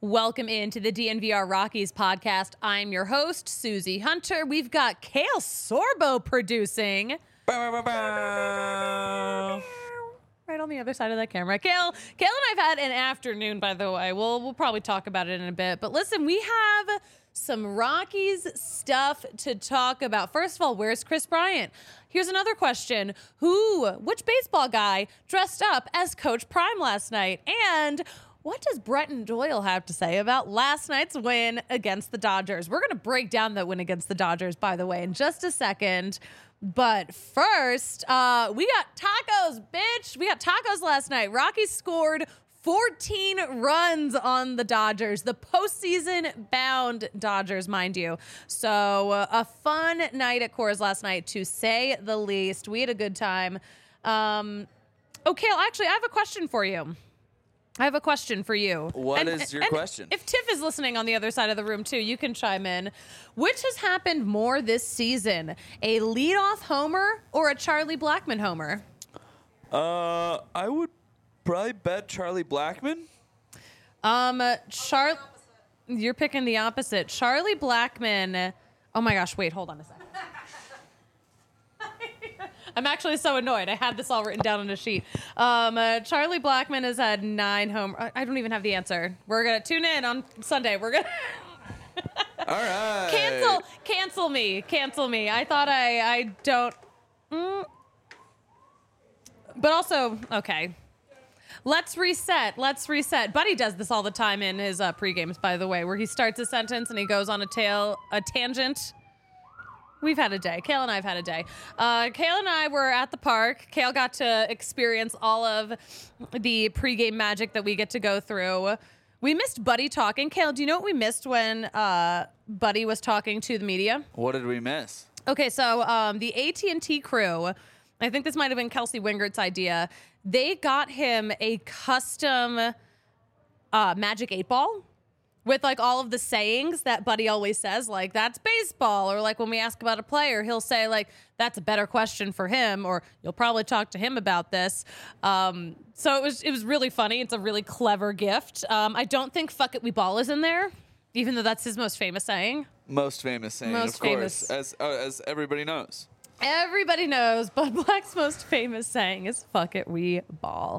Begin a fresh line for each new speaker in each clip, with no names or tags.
Welcome into the DNVR Rockies podcast. I'm your host, Susie Hunter. We've got Kale Sorbo producing. Right on the other side of that camera. Kale and I've had an afternoon, by the way. We'll probably talk about it in a bit. But listen, we have some Rockies stuff to talk about. First of all, where's Chris Bryant? Here's another question. Which baseball guy dressed up as Coach Prime last night? And what does Brenton Doyle have to say about last night's win against the Dodgers? We're going to break down that win against the Dodgers, by the way, in just a second. But first, we got tacos, bitch. We got tacos last night. Rockies scored 14 runs on the Dodgers, the postseason-bound Dodgers, mind you. So a fun night at Coors last night, to say the least. We had a good time. Kale, actually, I have a question for you.
What is your question?
If Tiff is listening on the other side of the room too, you can chime in. Which has happened more this season, a leadoff homer or a Charlie Blackmon homer?
I would probably bet Charlie Blackmon.
You're picking the opposite. Charlie Blackmon. Oh my gosh! Wait, hold on a second. I'm actually so annoyed. I had this all written down on a sheet. Charlie Blackmon has had 9 home. I don't even have the answer. We're going to tune in on Sunday. We're going to...
All right.
Cancel me. I thought I don't... But also, okay. Let's reset. Buddy does this all the time in his pre-games, by the way, where he starts a sentence and he goes on a tangent. We've had a day. Kale and I have had a day. Kale and I were at the park. Kale got to experience all of the pregame magic that we get to go through. We missed Buddy talking. Kale, do you know what we missed when Buddy was talking to the media?
What did we miss?
Okay, so the AT&T crew, I think this might have been Kelsey Wingert's idea. They got him a custom Magic 8 Ball with like all of the sayings that Buddy always says, like, that's baseball. Or like when we ask about a player, he'll say like, that's a better question for him, or you'll probably talk to him about this. So it was really funny. It's a really clever gift. I don't think "fuck it, we ball" is in there, even though that's his most famous saying.
Most famous saying, of course, as everybody knows.
Everybody knows Bud Black's most famous saying is "fuck it, we ball."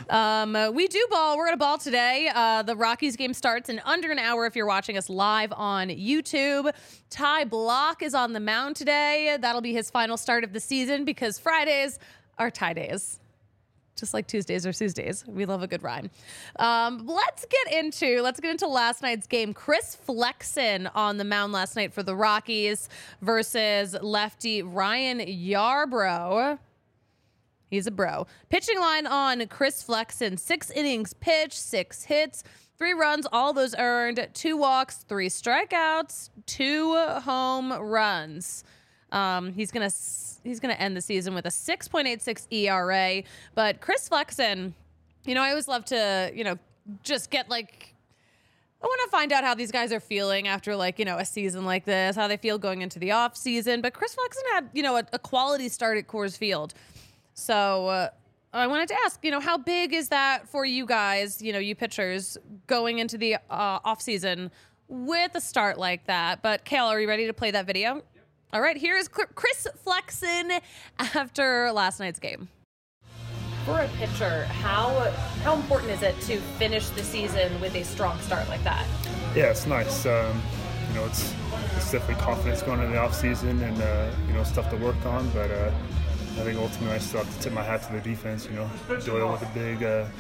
We do ball. We're going to ball today. The Rockies game starts in under an hour if you're watching us live on YouTube. Ty Block is on the mound today. That'll be his final start of the season because Fridays are Ty days. Just like Tuesdays or Tuesdays. We love a good rhyme. Let's get into last night's game. Chris Flexen on the mound last night for the Rockies versus lefty Ryan Yarbrough. He's a bro. Pitching line on Chris Flexen. 6 innings pitched, 6 hits, 3 runs, all those earned, 2 walks, 3 strikeouts, 2 home runs. He's gonna end the season with a 6.86 ERA. But Chris Flexen, I always love to, just get like, I want to find out how these guys are feeling after like, a season like this, how they feel going into the off season. But Chris Flexen had, a quality start at Coors Field. So I wanted to ask, how big is that for you guys, you pitchers going into the off season with a start like that? But Kale, are you ready to play that video? All right, here is Chris Flexen after last night's game. For a pitcher, how important is it to finish the season with a strong start like that?
Yeah, it's nice. It's definitely confidence going into the off season and stuff to work on. But I think ultimately I still have to tip my hat to the defense. Doyle with a big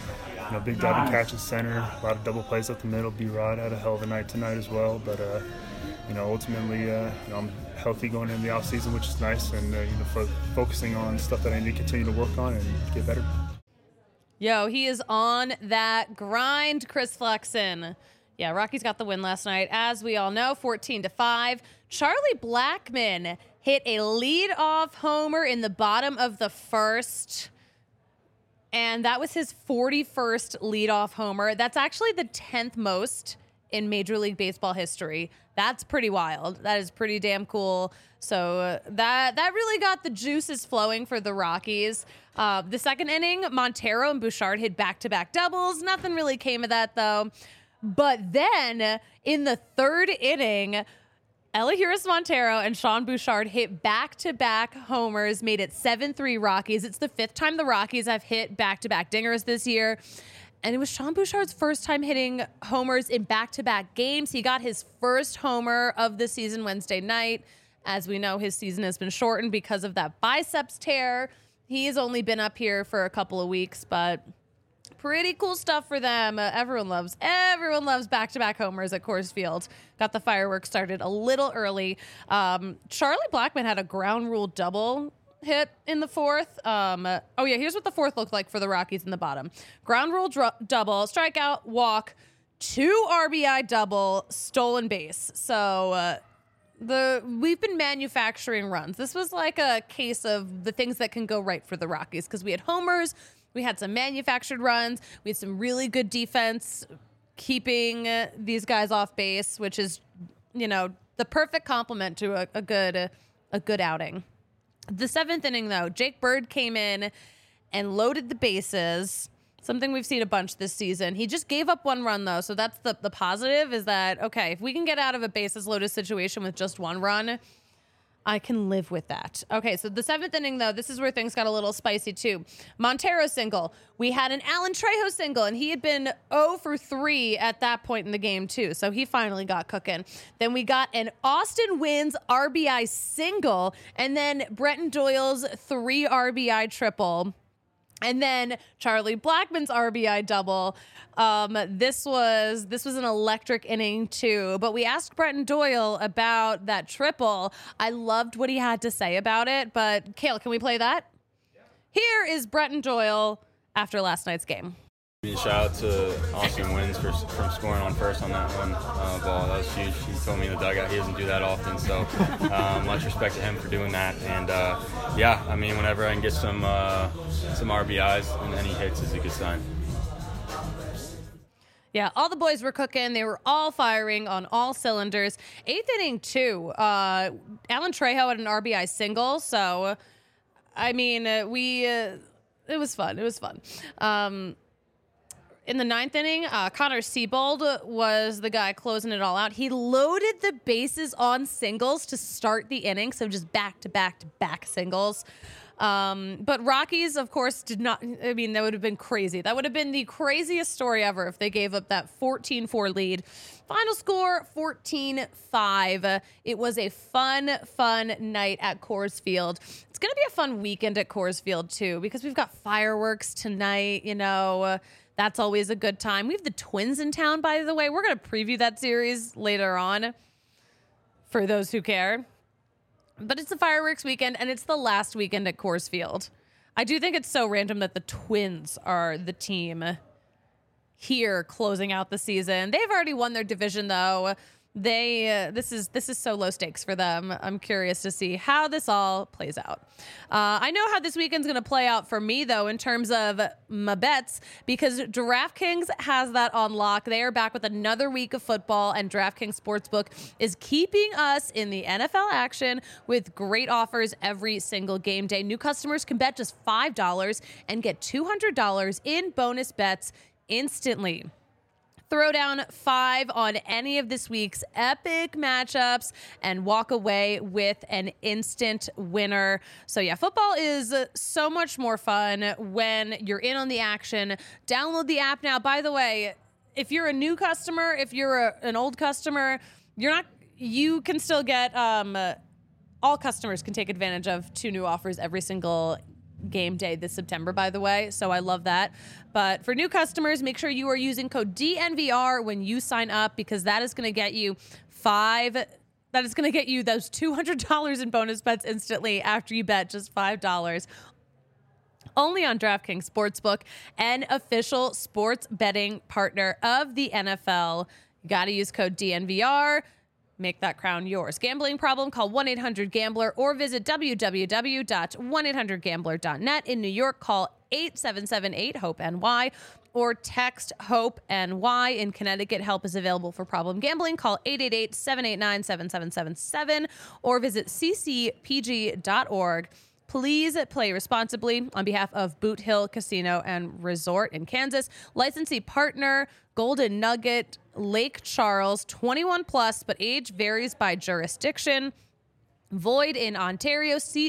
diving catch at center, a lot of double plays up the middle. B-Rod had a hell of a night tonight as well. But ultimately, I'm healthy going into the off season, which is nice, and focusing on stuff that I need to continue to work on and get better.
Yo, he is on that grind, Chris Flexen. Yeah, Rockies got the win last night, as we all know, 14-5. Charlie Blackmon hit a leadoff homer in the bottom of the first, and that was his 41st leadoff homer. That's actually the 10th most in Major League Baseball history. That's pretty wild. That is pretty damn cool. So that really got the juices flowing for the Rockies. The second inning, Montero and Bouchard hit back-to-back doubles. Nothing really came of that, though. But then in the third inning, Elihuris Montero and Sean Bouchard hit back-to-back homers, made it 7-3 Rockies. It's the fifth time the Rockies have hit back-to-back dingers this year. And it was Sean Bouchard's first time hitting homers in back-to-back games. He got his first homer of the season Wednesday night. As we know, his season has been shortened because of that biceps tear. He has only been up here for a couple of weeks, but pretty cool stuff for them. Everyone loves back-to-back homers at Coors Field. Got the fireworks started a little early. Charlie Blackmon had a ground rule double hit in the fourth. Here's what the fourth looked like for the Rockies in the bottom. Ground rule double, strikeout, walk, 2 RBI double, stolen base. So we've been manufacturing runs. This was like a case of the things that can go right for the Rockies because we had homers, we had some manufactured runs, we had some really good defense keeping these guys off base, which is, the perfect complement to a good outing. The seventh inning, though, Jake Bird came in and loaded the bases, something we've seen a bunch this season. He just gave up 1 run, though, so that's the positive is that, okay, if we can get out of a bases loaded situation with just 1 run, I can live with that. Okay, so the seventh inning, though, this is where things got a little spicy, too. Montero single. We had an Alan Trejo single, and he had been 0 for 3 at that point in the game, too. So he finally got cooking. Then we got an Austin Wynns RBI single, and then Brenton Doyle's 3 RBI triple. And then Charlie Blackmon's RBI double. This was an electric inning too. But we asked Brenton Doyle about that triple. I loved what he had to say about it. But Kale, can we play that? Yeah. Here is Brenton Doyle after last night's game.
Shout out to Austin Wynns from scoring on first on that one ball. That was huge. He told me in the dugout he doesn't do that often, so much respect to him for doing that. And whenever I can get some RBIs and any hits is a good sign.
Yeah, all the boys were cooking. They were all firing on all cylinders. Eighth inning, too. Alan Trejo had an RBI single, so it was fun. It was fun. In the ninth inning, Connor Siebold was the guy closing it all out. He loaded the bases on singles to start the inning, so just back-to-back-to-back singles. But Rockies, of course, did not. That would have been crazy. That would have been the craziest story ever if they gave up that 14-4 lead. Final score, 14-5. It was a fun night at Coors Field. It's going to be a fun weekend at Coors Field, too, because we've got fireworks tonight, That's always a good time. We have the Twins in town, by the way. We're going to preview that series later on for those who care. But it's a fireworks weekend, and it's the last weekend at Coors Field. I do think it's so random that the Twins are the team here closing out the season. They've already won their division, though. This is so low stakes for them. I'm curious to see how this all plays out. I know how this weekend's going to play out for me, though, in terms of my bets, because DraftKings has that on lock. They are back with another week of football, and DraftKings Sportsbook is keeping us in the NFL action with great offers every single game day. New customers can bet just $5 and get $200 in bonus bets instantly. Throw down 5 on any of this week's epic matchups and walk away with an instant winner. So yeah, football is so much more fun when you're in on the action. Download the app now. By the way, if you're a new customer, if you're an old customer, you can still get, all customers can take advantage of 2 new offers every single game day this September, by the way. So I love that. But for new customers, make sure you are using code DNVR when you sign up, because that is going to get you those $200 in bonus bets instantly after you bet just $5. Only on DraftKings Sportsbook, an official sports betting partner of the NFL. You got to use code DNVR. Make that crown yours. Gambling problem? Call 1-800-GAMBLER or visit www.1800gambler.net. In New York, call 877-8-HOPE-NY or text HOPE-NY. In Connecticut, help is available for problem gambling. Call 888-789-7777 or visit ccpg.org. Please play responsibly. On behalf of Boot Hill Casino and Resort in Kansas, licensee partner Golden Nugget, Lake Charles, 21 plus, but age varies by jurisdiction. Void in Ontario. See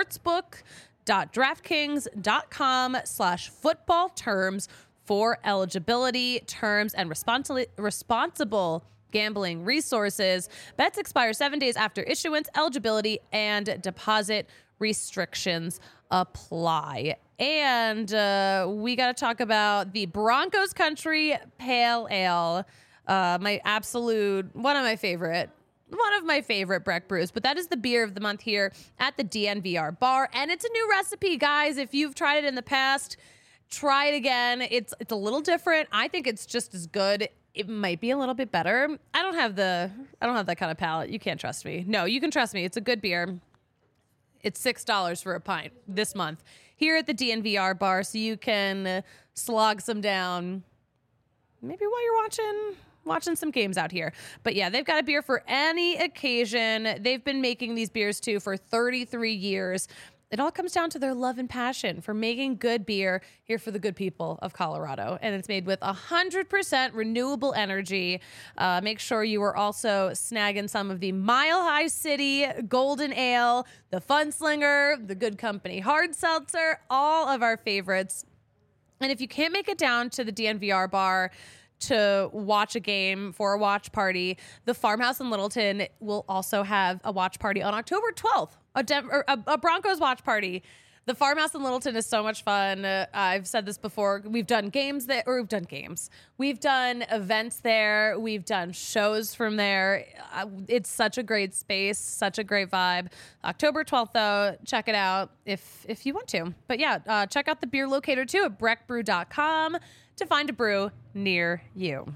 sportsbook.draftkings.com/football terms for eligibility, terms, and responsible gambling resources. Bets expire 7 days after issuance. Eligibility and deposit restrictions apply. And we got to talk about the Broncos Country Pale Ale. One of my favorite Breck brews, but that is the beer of the month here at the DNVR bar. And it's a new recipe, guys. If you've tried it in the past, try it again. It's a little different. I think it's just as good. It might be a little bit better. I don't have that kind of palate. You can't trust me. No, you can trust me. It's a good beer. It's $6 for a pint this month here at the DNVR bar, so you can slog some down maybe while you're watching some games out here. But yeah, they've got a beer for any occasion. They've been making these beers too for 33 years. It all comes down to their love and passion for making good beer here for the good people of Colorado. And it's made with 100% renewable energy. Make sure you are also snagging some of the Mile High City Golden Ale, the Fun Slinger, the Good Company Hard Seltzer, all of our favorites. And if you can't make it down to the DNVR bar to watch a game for a watch party, the Farmhouse in Littleton will also have a watch party on October 12th, a Broncos watch party. The Farmhouse in Littleton is so much fun. I've said this before. We've done games there, or we've done games. We've done events there. We've done shows from there. It's such a great space, such a great vibe. October 12th, though, check it out if you want to. But yeah, check out the beer locator too at breckbrew.com to find a brew near you.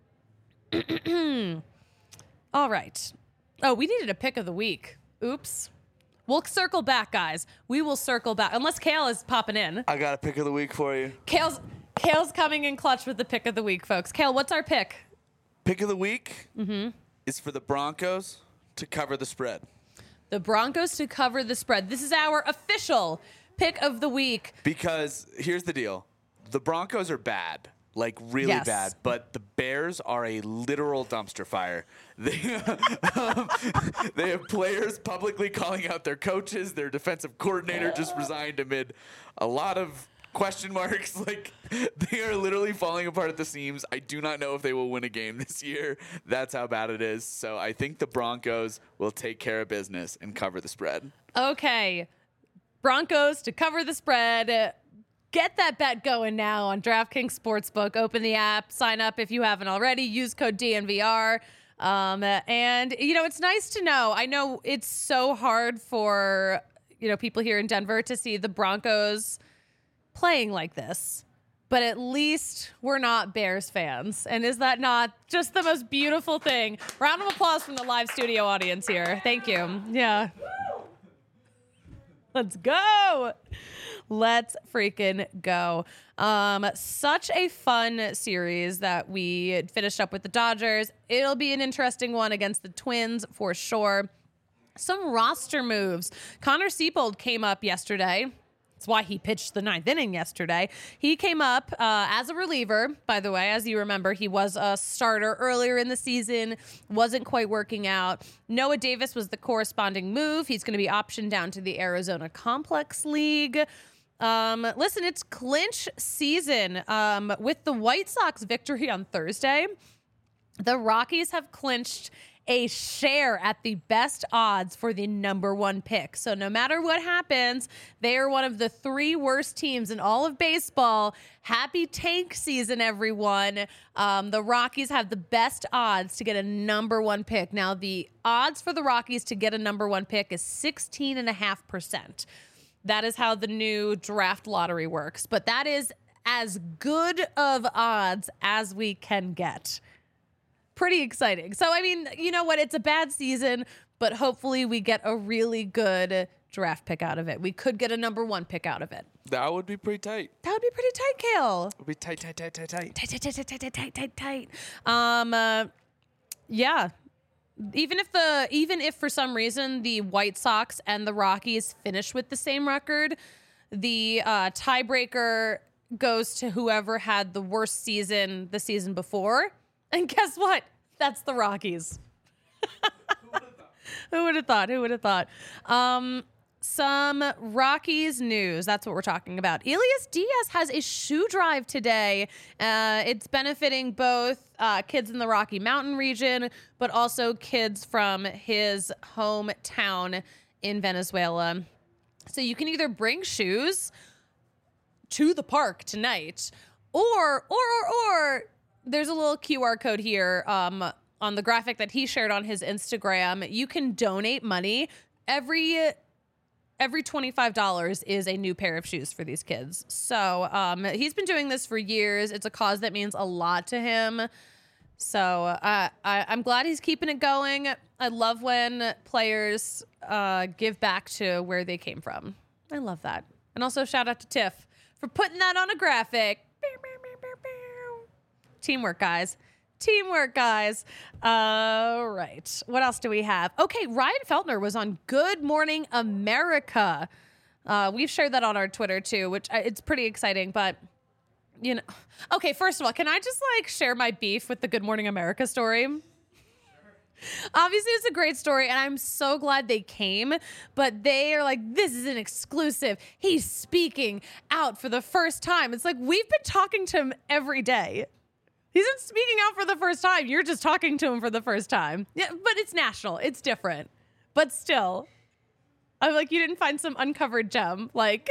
All right. Oh, we needed a pick of the week. Oops. We'll circle back, guys. We will circle back. Unless Kale is popping in.
I got a pick of the week for you.
Kale's coming in clutch with the pick of the week, folks. Kale, what's our pick?
Pick of the week is for the Broncos to cover the spread.
The Broncos to cover the spread. This is our official pick of the week.
Because here's the deal. The Broncos are bad. Like, really bad. But the Bears are a literal dumpster fire. They have players publicly calling out their coaches. Their defensive coordinator just resigned amid a lot of question marks. Like, they are literally falling apart at the seams. I do not know if they will win a game this year. That's how bad it is. So I think the Broncos will take care of business and cover the spread.
Okay. Broncos to cover the spread. Get that bet going now on DraftKings Sportsbook. Open the app, sign up if you haven't already. Use code DNVR. And, it's nice to know. I know it's so hard for, people here in Denver to see the Broncos playing like this. But at least we're not Bears fans. And is that not just the most beautiful thing? Round of applause from the live studio audience here. Thank you. Yeah. Let's go. Let's freaking go. Such a fun series that we finished up with the Dodgers. It'll be an interesting one against the Twins for sure. Some roster moves. Connor Siebold came up yesterday. That's why he pitched the 9th inning yesterday. He came up as a reliever, by the way. As you remember, he was a starter earlier in the season, wasn't quite working out. Noah Davis was the corresponding move. He's going to be optioned down to the Arizona Complex League. Listen, it's clinch season. With the White Sox victory on Thursday, the Rockies have clinched a share at the best odds for the number 1 pick. So no matter what happens, they are one of the 3 worst teams in all of baseball. Happy tank season, everyone. The Rockies have the best odds to get a number 1 pick. Now, the odds for the Rockies to get a number 1 pick is 16.5%. That is how the new draft lottery works. But that is as good of odds as we can get. Pretty exciting. So, I mean, you know what? It's a bad season, but hopefully we get a really good draft pick out of it. We could get a number 1 pick out of it.
That would be pretty tight.
That would be pretty tight, Kale.
It would be tight.
Yeah. Even if for some reason the White Sox and the Rockies finish with the same record, the tiebreaker goes to whoever had the worst season the season before. And guess what? That's the Rockies. Who would have thought? Some Rockies news. That's what we're talking about. Elias Diaz has a shoe drive today. It's benefiting both kids in the Rocky Mountain region, but also kids from his hometown in Venezuela. So you can either bring shoes to the park tonight, or there's a little QR code here on the graphic that he shared on his Instagram. You can donate money. Every $25 is a new pair of shoes for these kids. So he's been doing this for years. It's a cause that means a lot to him. So I'm glad he's keeping it going. I love when players give back to where they came from. I love that. And also shout out to Tiff for putting that on a graphic. Teamwork, guys. All right. What else do we have? Okay, Ryan Feltner was on Good Morning America. We've shared that on our Twitter too, which it's pretty exciting, but you know. Okay, first of all, can I just share my beef with the Good Morning America story? Obviously, it's a great story, and I'm so glad they came, but they are like, this is an exclusive. He's speaking out for the first time. It's like, we've been talking to him every day. He's not speaking out for the first time. You're just talking to him for the first time. Yeah, but it's national. It's different. But still, I'm like, you didn't find some uncovered gem.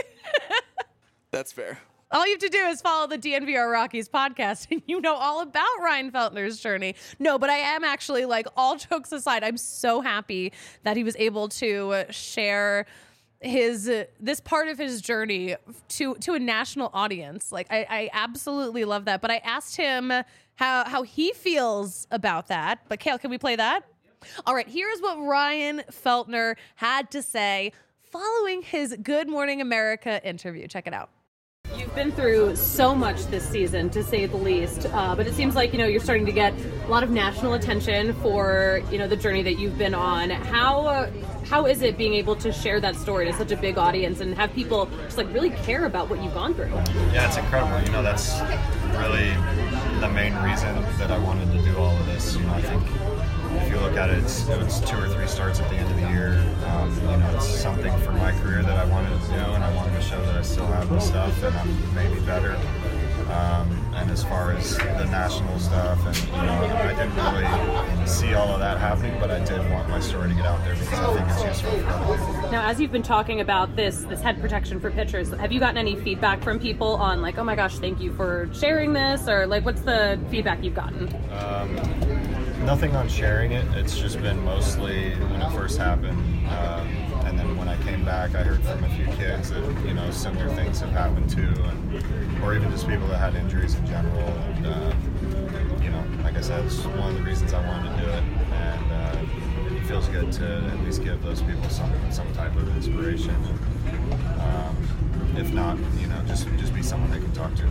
That's fair.
All you have to do is follow the DNVR Rockies podcast and you know all about Ryan Feltner's journey. No, but I am actually, all jokes aside, I'm so happy that he was able to share this part of his journey to a national audience. I absolutely love that. But I asked him how he feels about that. But Kale, can we play that? All right, here's what Ryan Feltner had to say following his Good Morning America interview. Check it out. You've been through so much this season, to say the least, but it seems like, you're starting to get a lot of national attention for, the journey that you've been on. How is it being able to share that story to such a big audience and have people just really care about what you've gone through?
Yeah, it's incredible. That's really the main reason that I wanted to do all of this. I think if you look at it, it was 2 or 3 starts at the end of the year. It's something for my career that I wanted to do, and I wanted to show that I still have the stuff and I'm maybe better. And as far as the national stuff, and I didn't really see all of that happening, but I did want my story to get out there because I think it's useful for other people.
Now, as you've been talking about this head protection for pitchers, have you gotten any feedback from people on oh my gosh, thank you for sharing this, or what's the feedback you've gotten?
Nothing on sharing it. It's just been mostly when it first happened, and then when I came back, I heard from a few kids that similar things have happened too, or even just people that had injuries in general. And like I said, it's one of the reasons I wanted to do it, and it feels good to at least give those people some type of inspiration. If not, just be someone they can talk to.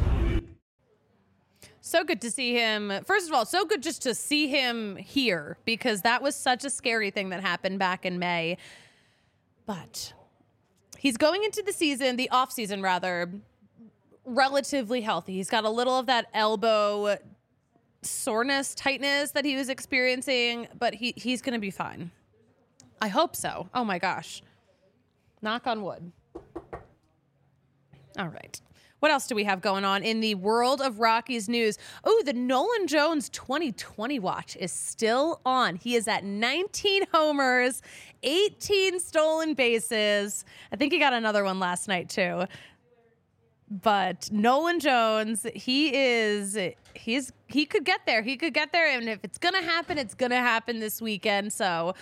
So good to see him. First of all, so good just to see him here, because that was such a scary thing that happened back in May. But he's going into the season, the off season rather, relatively healthy. He's got a little of that elbow soreness, tightness that he was experiencing, but he's going to be fine. I hope so. Oh my gosh. Knock on wood. All right. What else do we have going on in the world of Rockies news? Oh, the Nolan Jones 2020 watch is still on. He is at 19 homers, 18 stolen bases. I think he got another one last night too. But Nolan Jones, he could get there. He could get there, and if it's gonna happen, it's gonna happen this weekend. So,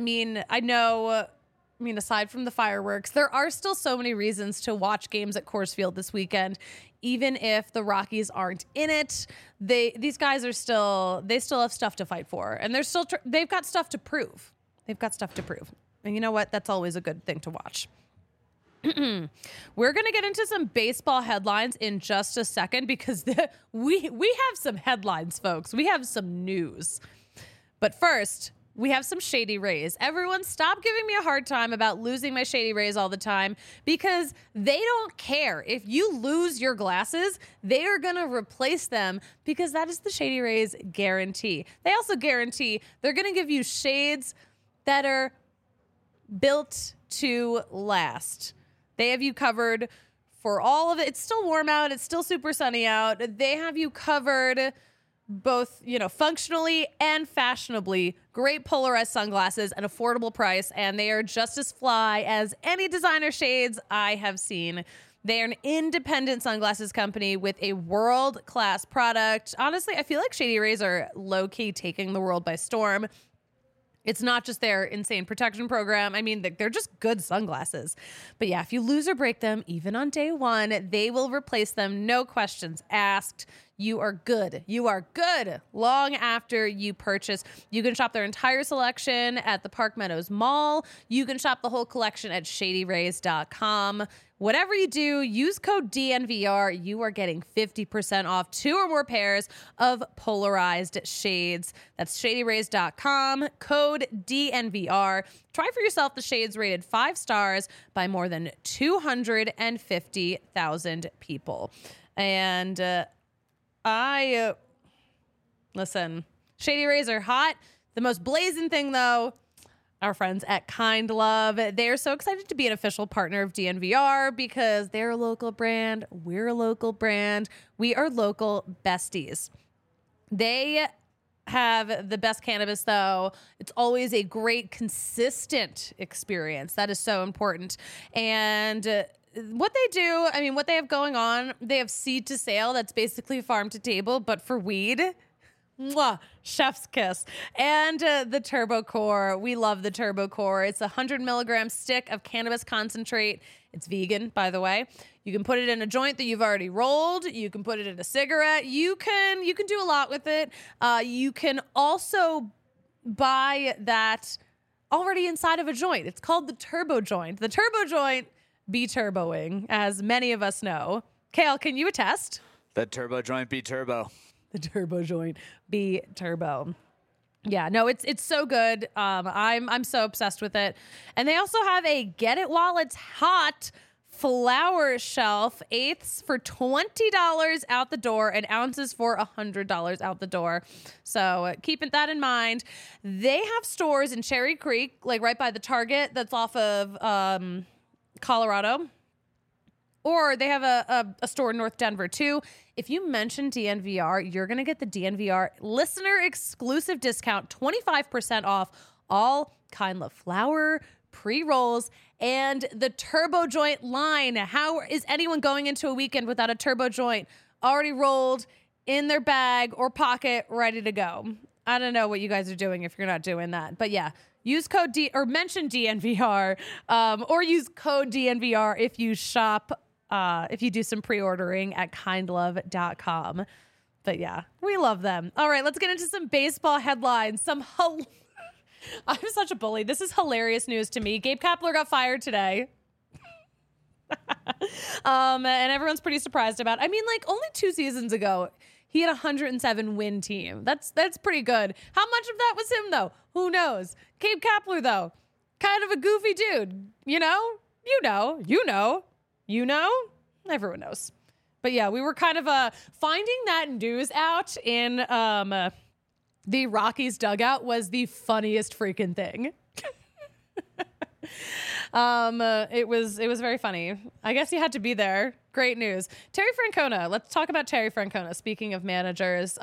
aside from the fireworks, there are still so many reasons to watch games at Coors Field this weekend. Even if the Rockies aren't in it, these guys still have stuff to fight for, and they've got stuff to prove. And you know what? That's always a good thing to watch. We're going to get into some baseball headlines in just a second, because we have some headlines, folks. We have some news. But first, we have some Shady Rays. Everyone stop giving me a hard time about losing my Shady Rays all the time, because they don't care. If you lose your glasses, they are going to replace them, because that is the Shady Rays guarantee. They also guarantee they're going to give you shades that are built to last. They have you covered for all of it. It's still warm out. It's still super sunny out. They have you covered both, functionally and fashionably. Great polarized sunglasses, an affordable price, and they are just as fly as any designer shades I have seen. They are an independent sunglasses company with a world-class product. Honestly, I feel like Shady Rays are low-key taking the world by storm. It's not just their insane protection program. I mean, they're just good sunglasses. But yeah, if you lose or break them, even on day one, they will replace them. No questions asked. You are good. You are good long after you purchase. You can shop their entire selection at the Park Meadows Mall. You can shop the whole collection at shadyrays.com. Whatever you do, use code DNVR. You are getting 50% off 2 or more pairs of polarized shades. That's shadyrays.com, code DNVR. Try for yourself the shades rated 5 stars by more than 250,000 people. And listen, Shady Rays are hot. The most blazing thing, though, our friends at Kind Love. They're so excited to be an official partner of DNVR because they're a local brand. We're a local brand. We are local besties. They have the best cannabis, though. It's always a great, consistent experience. That is so important. And what they do, what they have going on, they have seed to sale. That's basically farm to table, but for weed. Mwah, chef's kiss. And the Turbo Core. We love the Turbo Core. It's a 100 milligram stick of cannabis concentrate. It's vegan, by the way. You can put it in a joint that you've already rolled. You can put it in a cigarette. You can do a lot with it. You can also buy that already inside of a joint. It's called the Turbo Joint. The Turbo Joint be turboing, as many of us know. Kale, can you attest?
The Turbo Joint be turbo.
The Turbo Joint be turbo. Yeah, no, it's so good. I'm so obsessed with it. And they also have a Get It While It's Hot flower shelf, eighths for $20 out the door and ounces for $100 out the door. So keeping that in mind, they have stores in Cherry Creek, like right by the Target that's off of Colorado. Or they have a store in North Denver, too. If you mention DNVR, you're going to get the DNVR listener exclusive discount, 25% off all Kind Love flower, pre-rolls, and the Turbo Joint line. How is anyone going into a weekend without a Turbo Joint already rolled in their bag or pocket, ready to go? I don't know what you guys are doing if you're not doing that. But yeah, use code or mention DNVR, or use code DNVR if you shop. If you do some pre-ordering at kindlove.com. But yeah, we love them. All right, let's get into some baseball headlines. I'm such a bully. This is hilarious news to me. Gabe Kapler got fired today. And everyone's pretty surprised about it. Only 2 seasons ago, he had a 107 win team. That's pretty good. How much of that was him, though? Who knows? Gabe Kapler, though, kind of a goofy dude. You know? Everyone knows. But yeah, we were kind of finding that news out in the Rockies dugout was the funniest freaking thing. It was very funny. I guess you had to be there. Great news. Terry Francona. Let's talk about Terry Francona. Speaking of managers,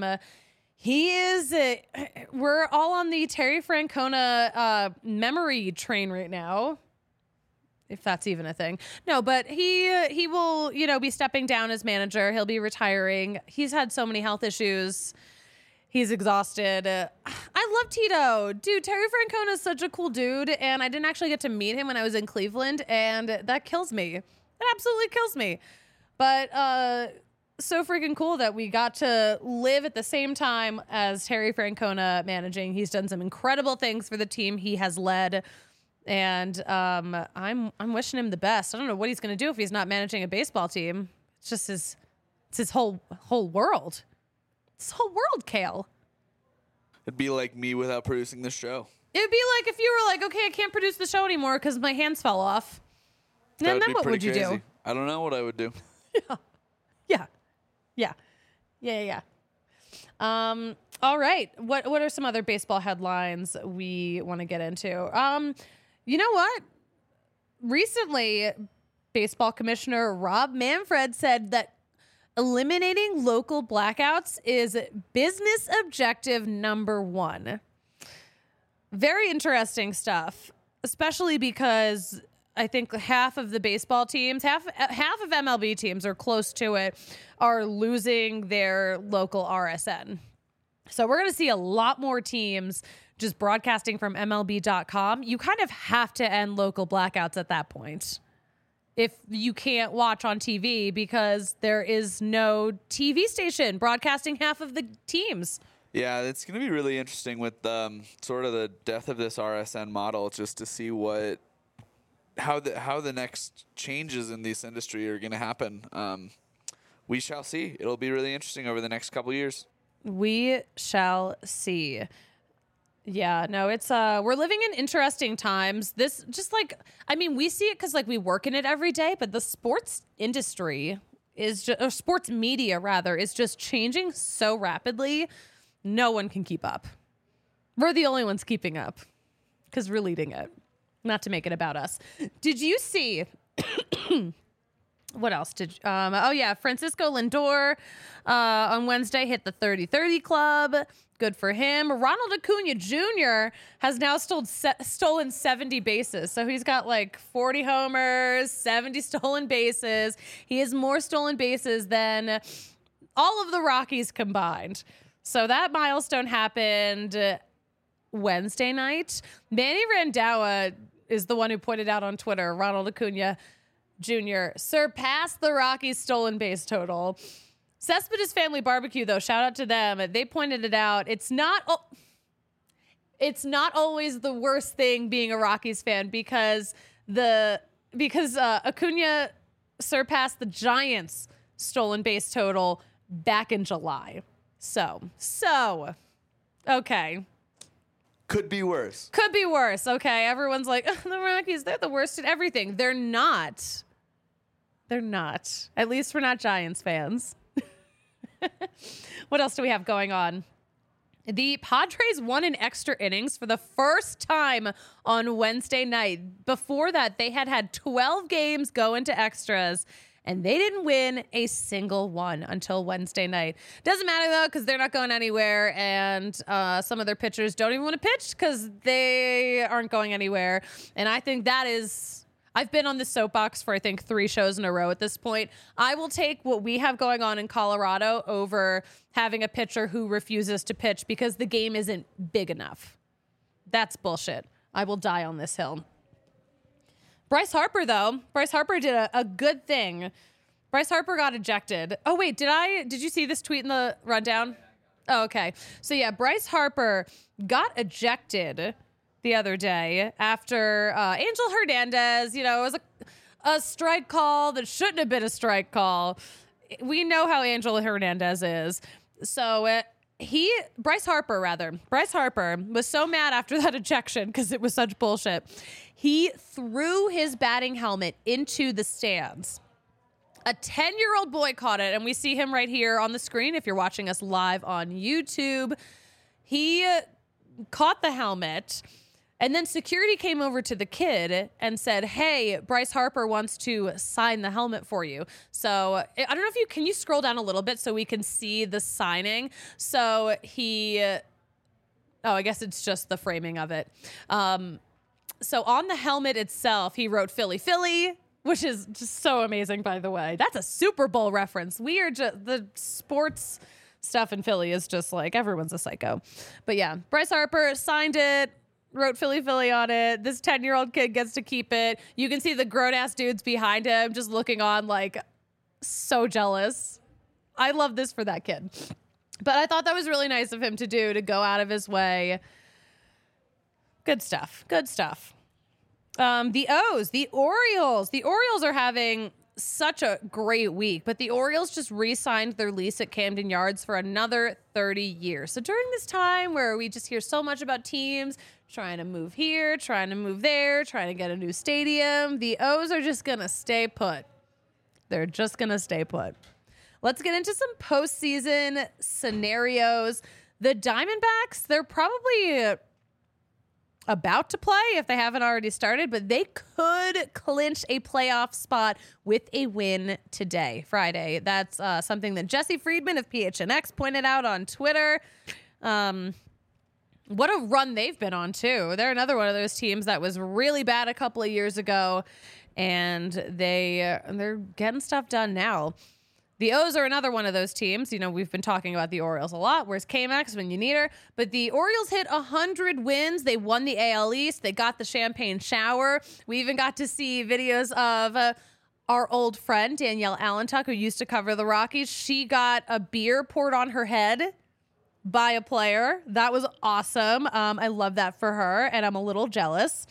we're all on the Terry Francona memory train right now. If that's even a thing. No, but he will, be stepping down as manager. He'll be retiring. He's had so many health issues. He's exhausted. I love Tito. Dude, Terry Francona is such a cool dude, and I didn't actually get to meet him when I was in Cleveland, and that kills me. It absolutely kills me. But so freaking cool that we got to live at the same time as Terry Francona managing. He's done some incredible things for the team he has led. And I'm wishing him the best. I don't know what he's going to do if he's not managing a baseball team. It's just his whole world. It's his whole world, Kale.
It'd be like me without producing the show.
It would be like if you were like, okay, I can't produce the show anymore because my hands fell off. And then what would you do?
I don't know what I would do.
Yeah. All right. What are some other baseball headlines we want to get into? You know what? Recently, baseball commissioner Rob Manfred said that eliminating local blackouts is business objective number 1. Very interesting stuff, especially because I think half of the baseball teams, half of MLB teams are close to it, are losing their local RSN. So we're going to see a lot more teams just broadcasting from MLB.com. You kind of have to end local blackouts at that point if you can't watch on TV because there is no TV station broadcasting half of the teams.
Yeah, it's going to be really interesting with sort of the death of this RSN model, just to see how the next changes in this industry are going to happen. We shall see. It'll be really interesting over the next couple years.
We shall see. Yeah, no, it's we're living in interesting times. This just like, I mean, we see it because like we work in it every day, but the sports industry is just, or sports media rather, is just changing so rapidly. No one can keep up. We're the only ones keeping up because we're leading it. Not to make it about us. Did you see? What else did? Francisco Lindor on Wednesday hit the 30-30 club. Good for him. Ronald Acuna Jr. has now stolen 70 bases. So he's got like 40 homers, 70 stolen bases. He has more stolen bases than all of the Rockies combined. So that milestone happened Wednesday night. Manny Randhawa is the one who pointed out on Twitter, Ronald Acuna Jr. surpassed the Rockies' stolen base total. Cespedes Family Barbecue, though, shout out to them. They pointed it out. It's not always the worst thing being a Rockies fan because Acuna surpassed the Giants' stolen base total back in July. So okay.
Could be worse.
Okay. Everyone's like, the Rockies, they're the worst at everything. They're not. At least we're not Giants fans. What else do we have going on? The Padres won in extra innings for the first time on Wednesday night. Before that, they had 12 games go into extras, and they didn't win a single one until Wednesday night. Doesn't matter, though, because they're not going anywhere, and some of their pitchers don't even want to pitch because they aren't going anywhere. And I think that is... I've been on the soapbox for, I think, 3 shows in a row at this point. I will take what we have going on in Colorado over having a pitcher who refuses to pitch because the game isn't big enough. That's bullshit. I will die on this hill. Bryce Harper, though. Bryce Harper did a good thing. Bryce Harper got ejected. Oh, wait, did you see this tweet in the rundown? Oh, okay. So, yeah, Bryce Harper got ejected the other day after Angel Hernandez, it was a strike call that shouldn't have been a strike call. We know how Angel Hernandez is. So Bryce Harper was so mad after that ejection because it was such bullshit. He threw his batting helmet into the stands. A 10-year-old boy caught it, and we see him right here on the screen if you're watching us live on YouTube. He caught the helmet. And then security came over to the kid and said, hey, Bryce Harper wants to sign the helmet for you. So I don't know if can you scroll down a little bit so we can see the signing? So I guess it's just the framing of it. So on the helmet itself, he wrote Philly, Philly, which is just so amazing, by the way. That's a Super Bowl reference. We are just, the sports stuff in Philly is just like, everyone's a psycho. But yeah, Bryce Harper signed it. Wrote Philly, Philly on it. This 10-year-old kid gets to keep it. You can see the grown-ass dudes behind him just looking on like so jealous. I love this for that kid. But I thought that was really nice of him to do, to go out of his way. Good stuff. The Orioles are having such a great week, but the Orioles just re-signed their lease at Camden Yards for another 30 years. So during this time where we just hear so much about teams trying to move here, trying to move there, trying to get a new stadium, the O's are just going to stay put. They're just going to stay put. Let's get into some postseason scenarios. The Diamondbacks, they're probably about to play if they haven't already started, but they could clinch a playoff spot with a win today, Friday. That's something that Jesse Friedman of PHNX pointed out on Twitter. What a run they've been on, too. They're another one of those teams that was really bad a couple of years ago, and they're getting stuff done now. The O's are another one of those teams. You know, we've been talking about the Orioles a lot. Where's K-Max when you need her? But the Orioles hit 100 wins. They won the AL East. They got the champagne shower. We even got to see videos of our old friend, Danielle Allentuck, who used to cover the Rockies. She got a beer poured on her head by a player. That was awesome. I love that for her, and I'm a little jealous.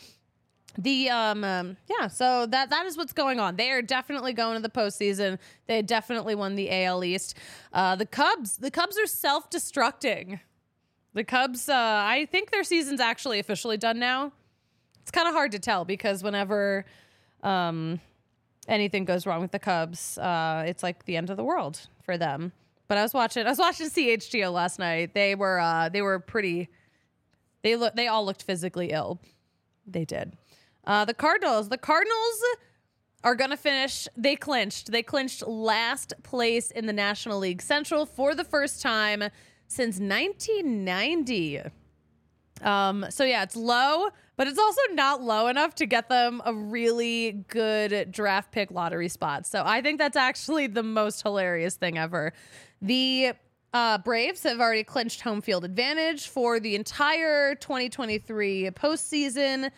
So that is what's going on. They are definitely going to the postseason. They definitely won the AL East. The Cubs are self-destructing. The Cubs, I think their season's actually officially done now. It's kind of hard to tell because whenever anything goes wrong with the Cubs, it's like the end of the world for them. But I was watching CHGO last night. They were pretty. They all looked physically ill. They did. The Cardinals are going to finish. They clinched last place in the National League Central for the first time since 1990. So yeah, it's low, but it's also not low enough to get them a really good draft pick lottery spot. So I think that's actually the most hilarious thing ever. The Braves have already clinched home field advantage for the entire 2023 postseason.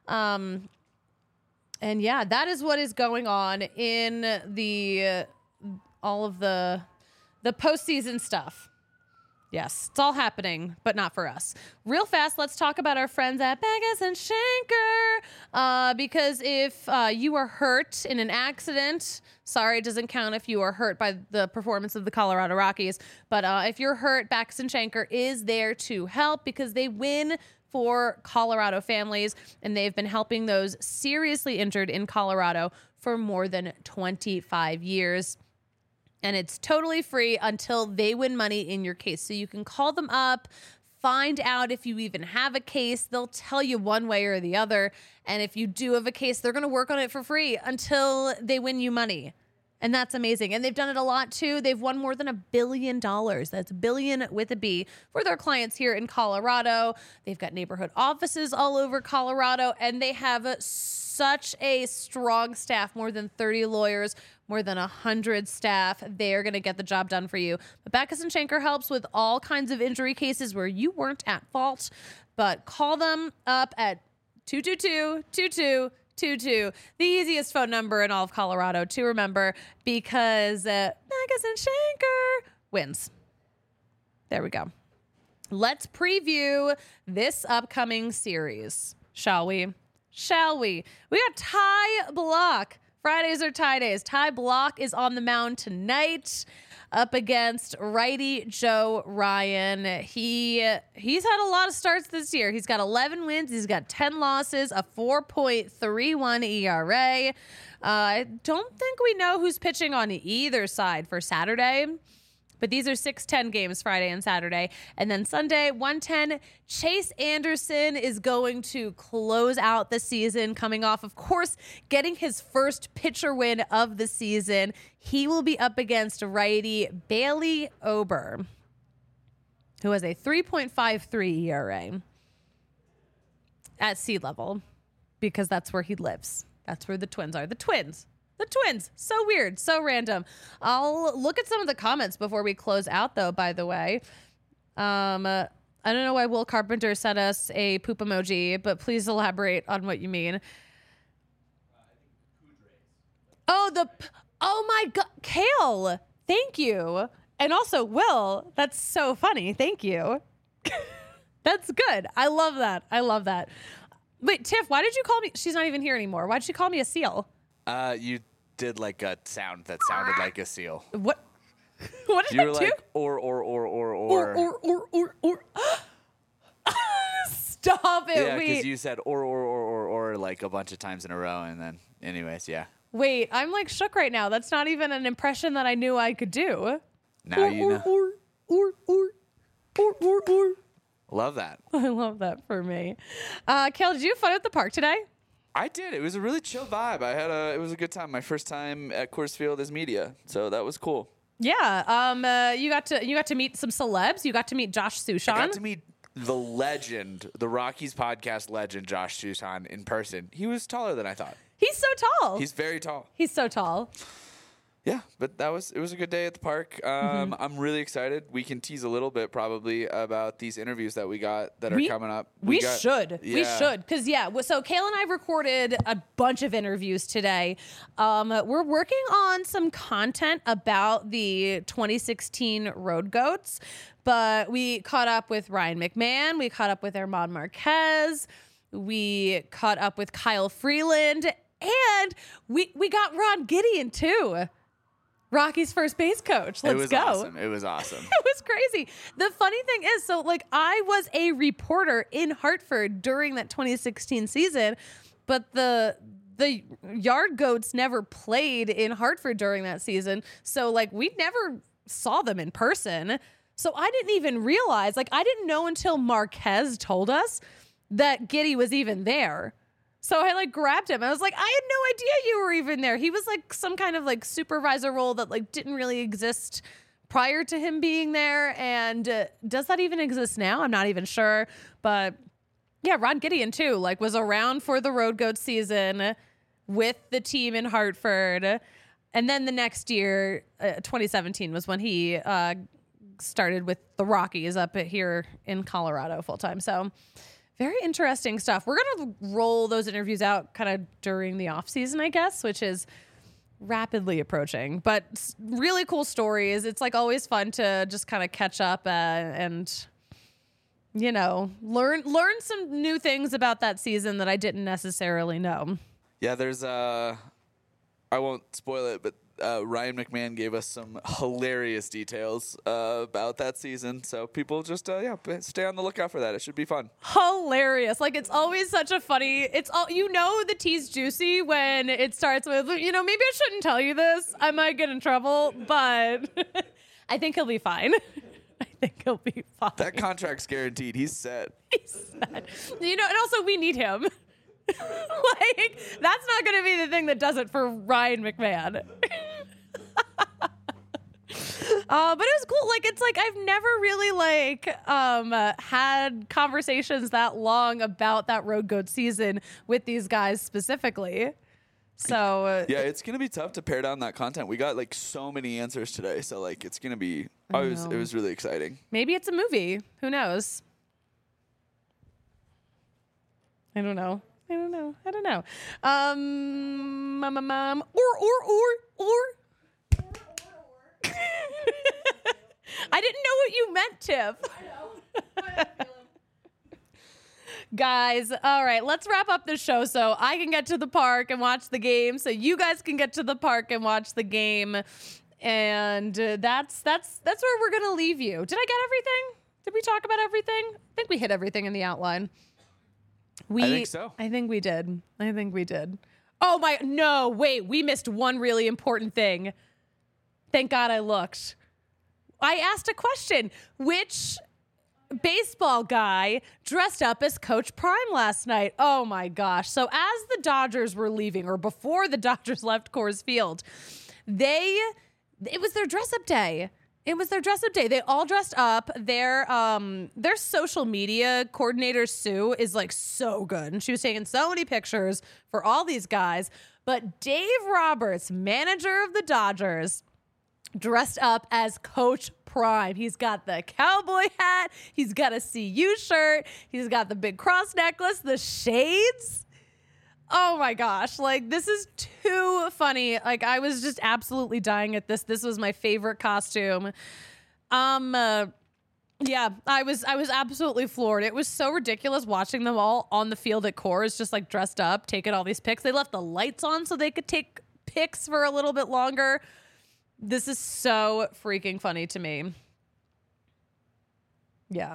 And yeah, that is what is going on in all of the postseason stuff. Yes, it's all happening, but not for us. Real fast, let's talk about our friends at Backus and Schenker. Because if you are hurt in an accident, sorry, it doesn't count if you are hurt by the performance of the Colorado Rockies. But if you're hurt, Backus and Schenker is there to help because they win for Colorado families, and they've been helping those seriously injured in Colorado for more than 25 years. And it's totally free until they win money in your case. So you can call them up, find out if you even have a case. They'll tell you one way or the other. And if you do have a case, they're going to work on it for free until they win you money. And that's amazing. And they've done it a lot, too. They've won more than $1 billion. That's billion with a B for their clients here in Colorado. They've got neighborhood offices all over Colorado, and they have such a strong staff, more than 30 lawyers, more than 100 staff. They're going to get the job done for you. But Backus and Schenker helps with all kinds of injury cases where you weren't at fault. But call them up at 222-2222. The easiest phone number in all of Colorado to remember because Backus and Schenker wins. There we go. Let's preview this upcoming series, shall we? We got Ty Block. Fridays are tie days. Ty Block is on the mound tonight up against righty Joe Ryan. He's had a lot of starts this year. He's got 11 wins. He's got 10 losses, a 4.31 ERA. I don't think we know who's pitching on either side for Saturday. But these are 6:10 games Friday and Saturday. And then Sunday, 1:10, Chase Anderson is going to close out the season, coming off, of course, getting his first pitcher win of the season. He will be up against righty Bailey Ober, who has a 3.53 ERA at sea level because that's where he lives. That's where the Twins are. The Twins. So weird. So random. I'll look at some of the comments before we close out, though, by the way. I don't know why Will Carpenter sent us a poop emoji, but please elaborate on what you mean. Oh my God. Kale. Thank you. And also, Will, that's so funny. Thank you. That's good. I love that. Wait, Tiff, why did you call me? She's not even here anymore. Why did you call me a seal?
You did like a sound that sounded like a seal.
What? What did
You
I
were
do?
like or.
Stop it!
Yeah,
Wait.
because you said or like a bunch of times in a row, and then anyways, yeah.
Wait, I'm like shook right now. That's not even an impression that I knew I could do.
Now you know.
Or.
Love that.
I love that for me. Kale, did you have fun at the park today?
I did. It was a really chill vibe. It was a good time. My first time at Coors Field as media, so that was cool.
Yeah. You got to meet some celebs. You got to meet Josh Sushan.
I got to meet the legend, the Rockies podcast legend, Josh Sushan, in person. He was taller than I thought.
He's so tall.
He's very tall.
He's so tall.
Yeah, but it was a good day at the park. I'm really excited. We can tease a little bit probably about these interviews that we got that are coming up.
We should. Because, so Kale and I recorded a bunch of interviews today. We're working on some content about the 2016 Road Goats, but we caught up with Ryan McMahon. We caught up with German Marquez. We caught up with Kyle Freeland. And we got Ron Gideon, too. Rocky's first base coach. Let's go.
Awesome. It was awesome.
It was crazy. The funny thing is, so like I was a reporter in Hartford during that 2016 season, but the Yard Goats never played in Hartford during that season. So like we never saw them in person. So I didn't even realize, like I didn't know until Marquez told us that Giddy was even there. So I like grabbed him. I was like, I had no idea you were even there. He was like some kind of like supervisor role that like didn't really exist prior to him being there. And does that even exist now? I'm not even sure. But yeah, Ron Gideon too, like was around for the Road Goat season with the team in Hartford. And then the next year, 2017 was when he started with the Rockies up here in Colorado full time. So very interesting stuff. We're going to roll those interviews out kind of during the off season, I guess, which is rapidly approaching, but really cool stories. It's like always fun to just kind of catch up and, you know, learn some new things about that season that I didn't necessarily know.
Yeah, there's I won't spoil it, but Ryan McMahon gave us some hilarious details about that season. So people just stay on the lookout for that. It should be fun.
Hilarious. Like it's always such a funny, the tea's juicy when it starts with, maybe I shouldn't tell you this. I might get in trouble, but I think he'll be fine. I think he'll be fine.
That contract's guaranteed. He's set.
He's set. And also we need him. Like that's not going to be the thing that does it for Ryan McMahon. But it was cool. Like it's like I've never really had conversations that long about that Road Goat season with these guys specifically. So
yeah, it's gonna be tough to pare down that content. We got like so many answers today, so like it's gonna be. It was really exciting.
Maybe it's a movie. Who knows? I don't know. Or. I didn't know what you meant, Tiff. I know. Guys, all right, let's wrap up the show so I can get to the park and watch the game, so you guys can get to the park and watch the game. And that's where we're gonna leave you. Did I get everything? Did we talk about everything? I think we hit everything in the outline.
I think so.
I think we did. Oh no, wait, we missed one really important thing. Thank God I looked. I asked a question. Which baseball guy dressed up as Coach Prime last night? Oh my gosh. So as the Dodgers were leaving, or before the Dodgers left Coors Field, it was their dress up day. They all dressed up. Their social media coordinator, Sue, is like so good. And she was taking so many pictures for all these guys. But Dave Roberts, manager of the Dodgers, dressed up as Coach Prime. He's got the cowboy hat. He's got a CU shirt. He's got the big cross necklace, the shades. Oh my gosh. Like, this is too funny. Like, I was just absolutely dying at this. This was my favorite costume. Yeah, I was absolutely floored. It was so ridiculous watching them all on the field at Coors, just like dressed up, taking all these pics. They left the lights on so they could take picks for a little bit longer. This is so freaking funny to me. Yeah.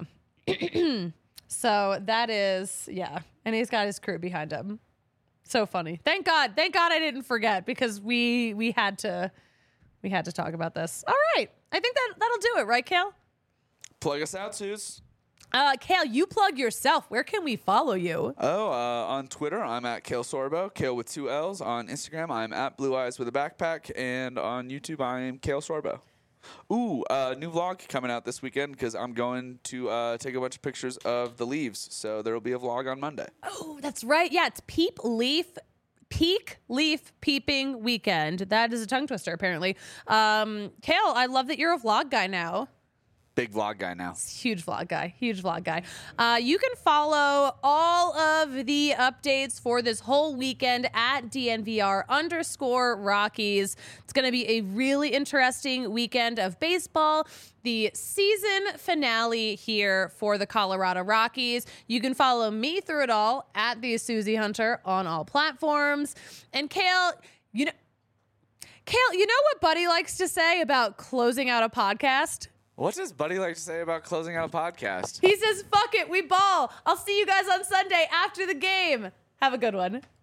So that is, yeah. And he's got his crew behind him. So funny. Thank God I didn't forget, because we had to talk about this. All right. I think that'll do it, right, Kale?
Plug us out, Suze.
Kale, you plug yourself. Where can we follow you?
On Twitter, I'm at Kale Sorbo, Kale with 2 L's. On Instagram, I'm at Blue Eyes with a Backpack. And on YouTube, I am Kale Sorbo. Ooh, new vlog coming out this weekend, because I'm going to take a bunch of pictures of the leaves. So there will be a vlog on Monday.
Oh, that's right. Yeah, it's Peak Leaf Peeping Weekend. That is a tongue twister, apparently. Kale, I love that you're a vlog guy now.
Big vlog guy now.
Huge vlog guy. You can follow all of the updates for this whole weekend at DNVR_Rockies. It's going to be a really interesting weekend of baseball. The season finale here for the Colorado Rockies. You can follow me through it all at the Susie Hunter on all platforms. And Kale, you know what Buddy likes to say about closing out a podcast?
What does Buddy like to say about closing out a podcast?
He says, fuck it, we ball. I'll see you guys on Sunday after the game. Have a good one.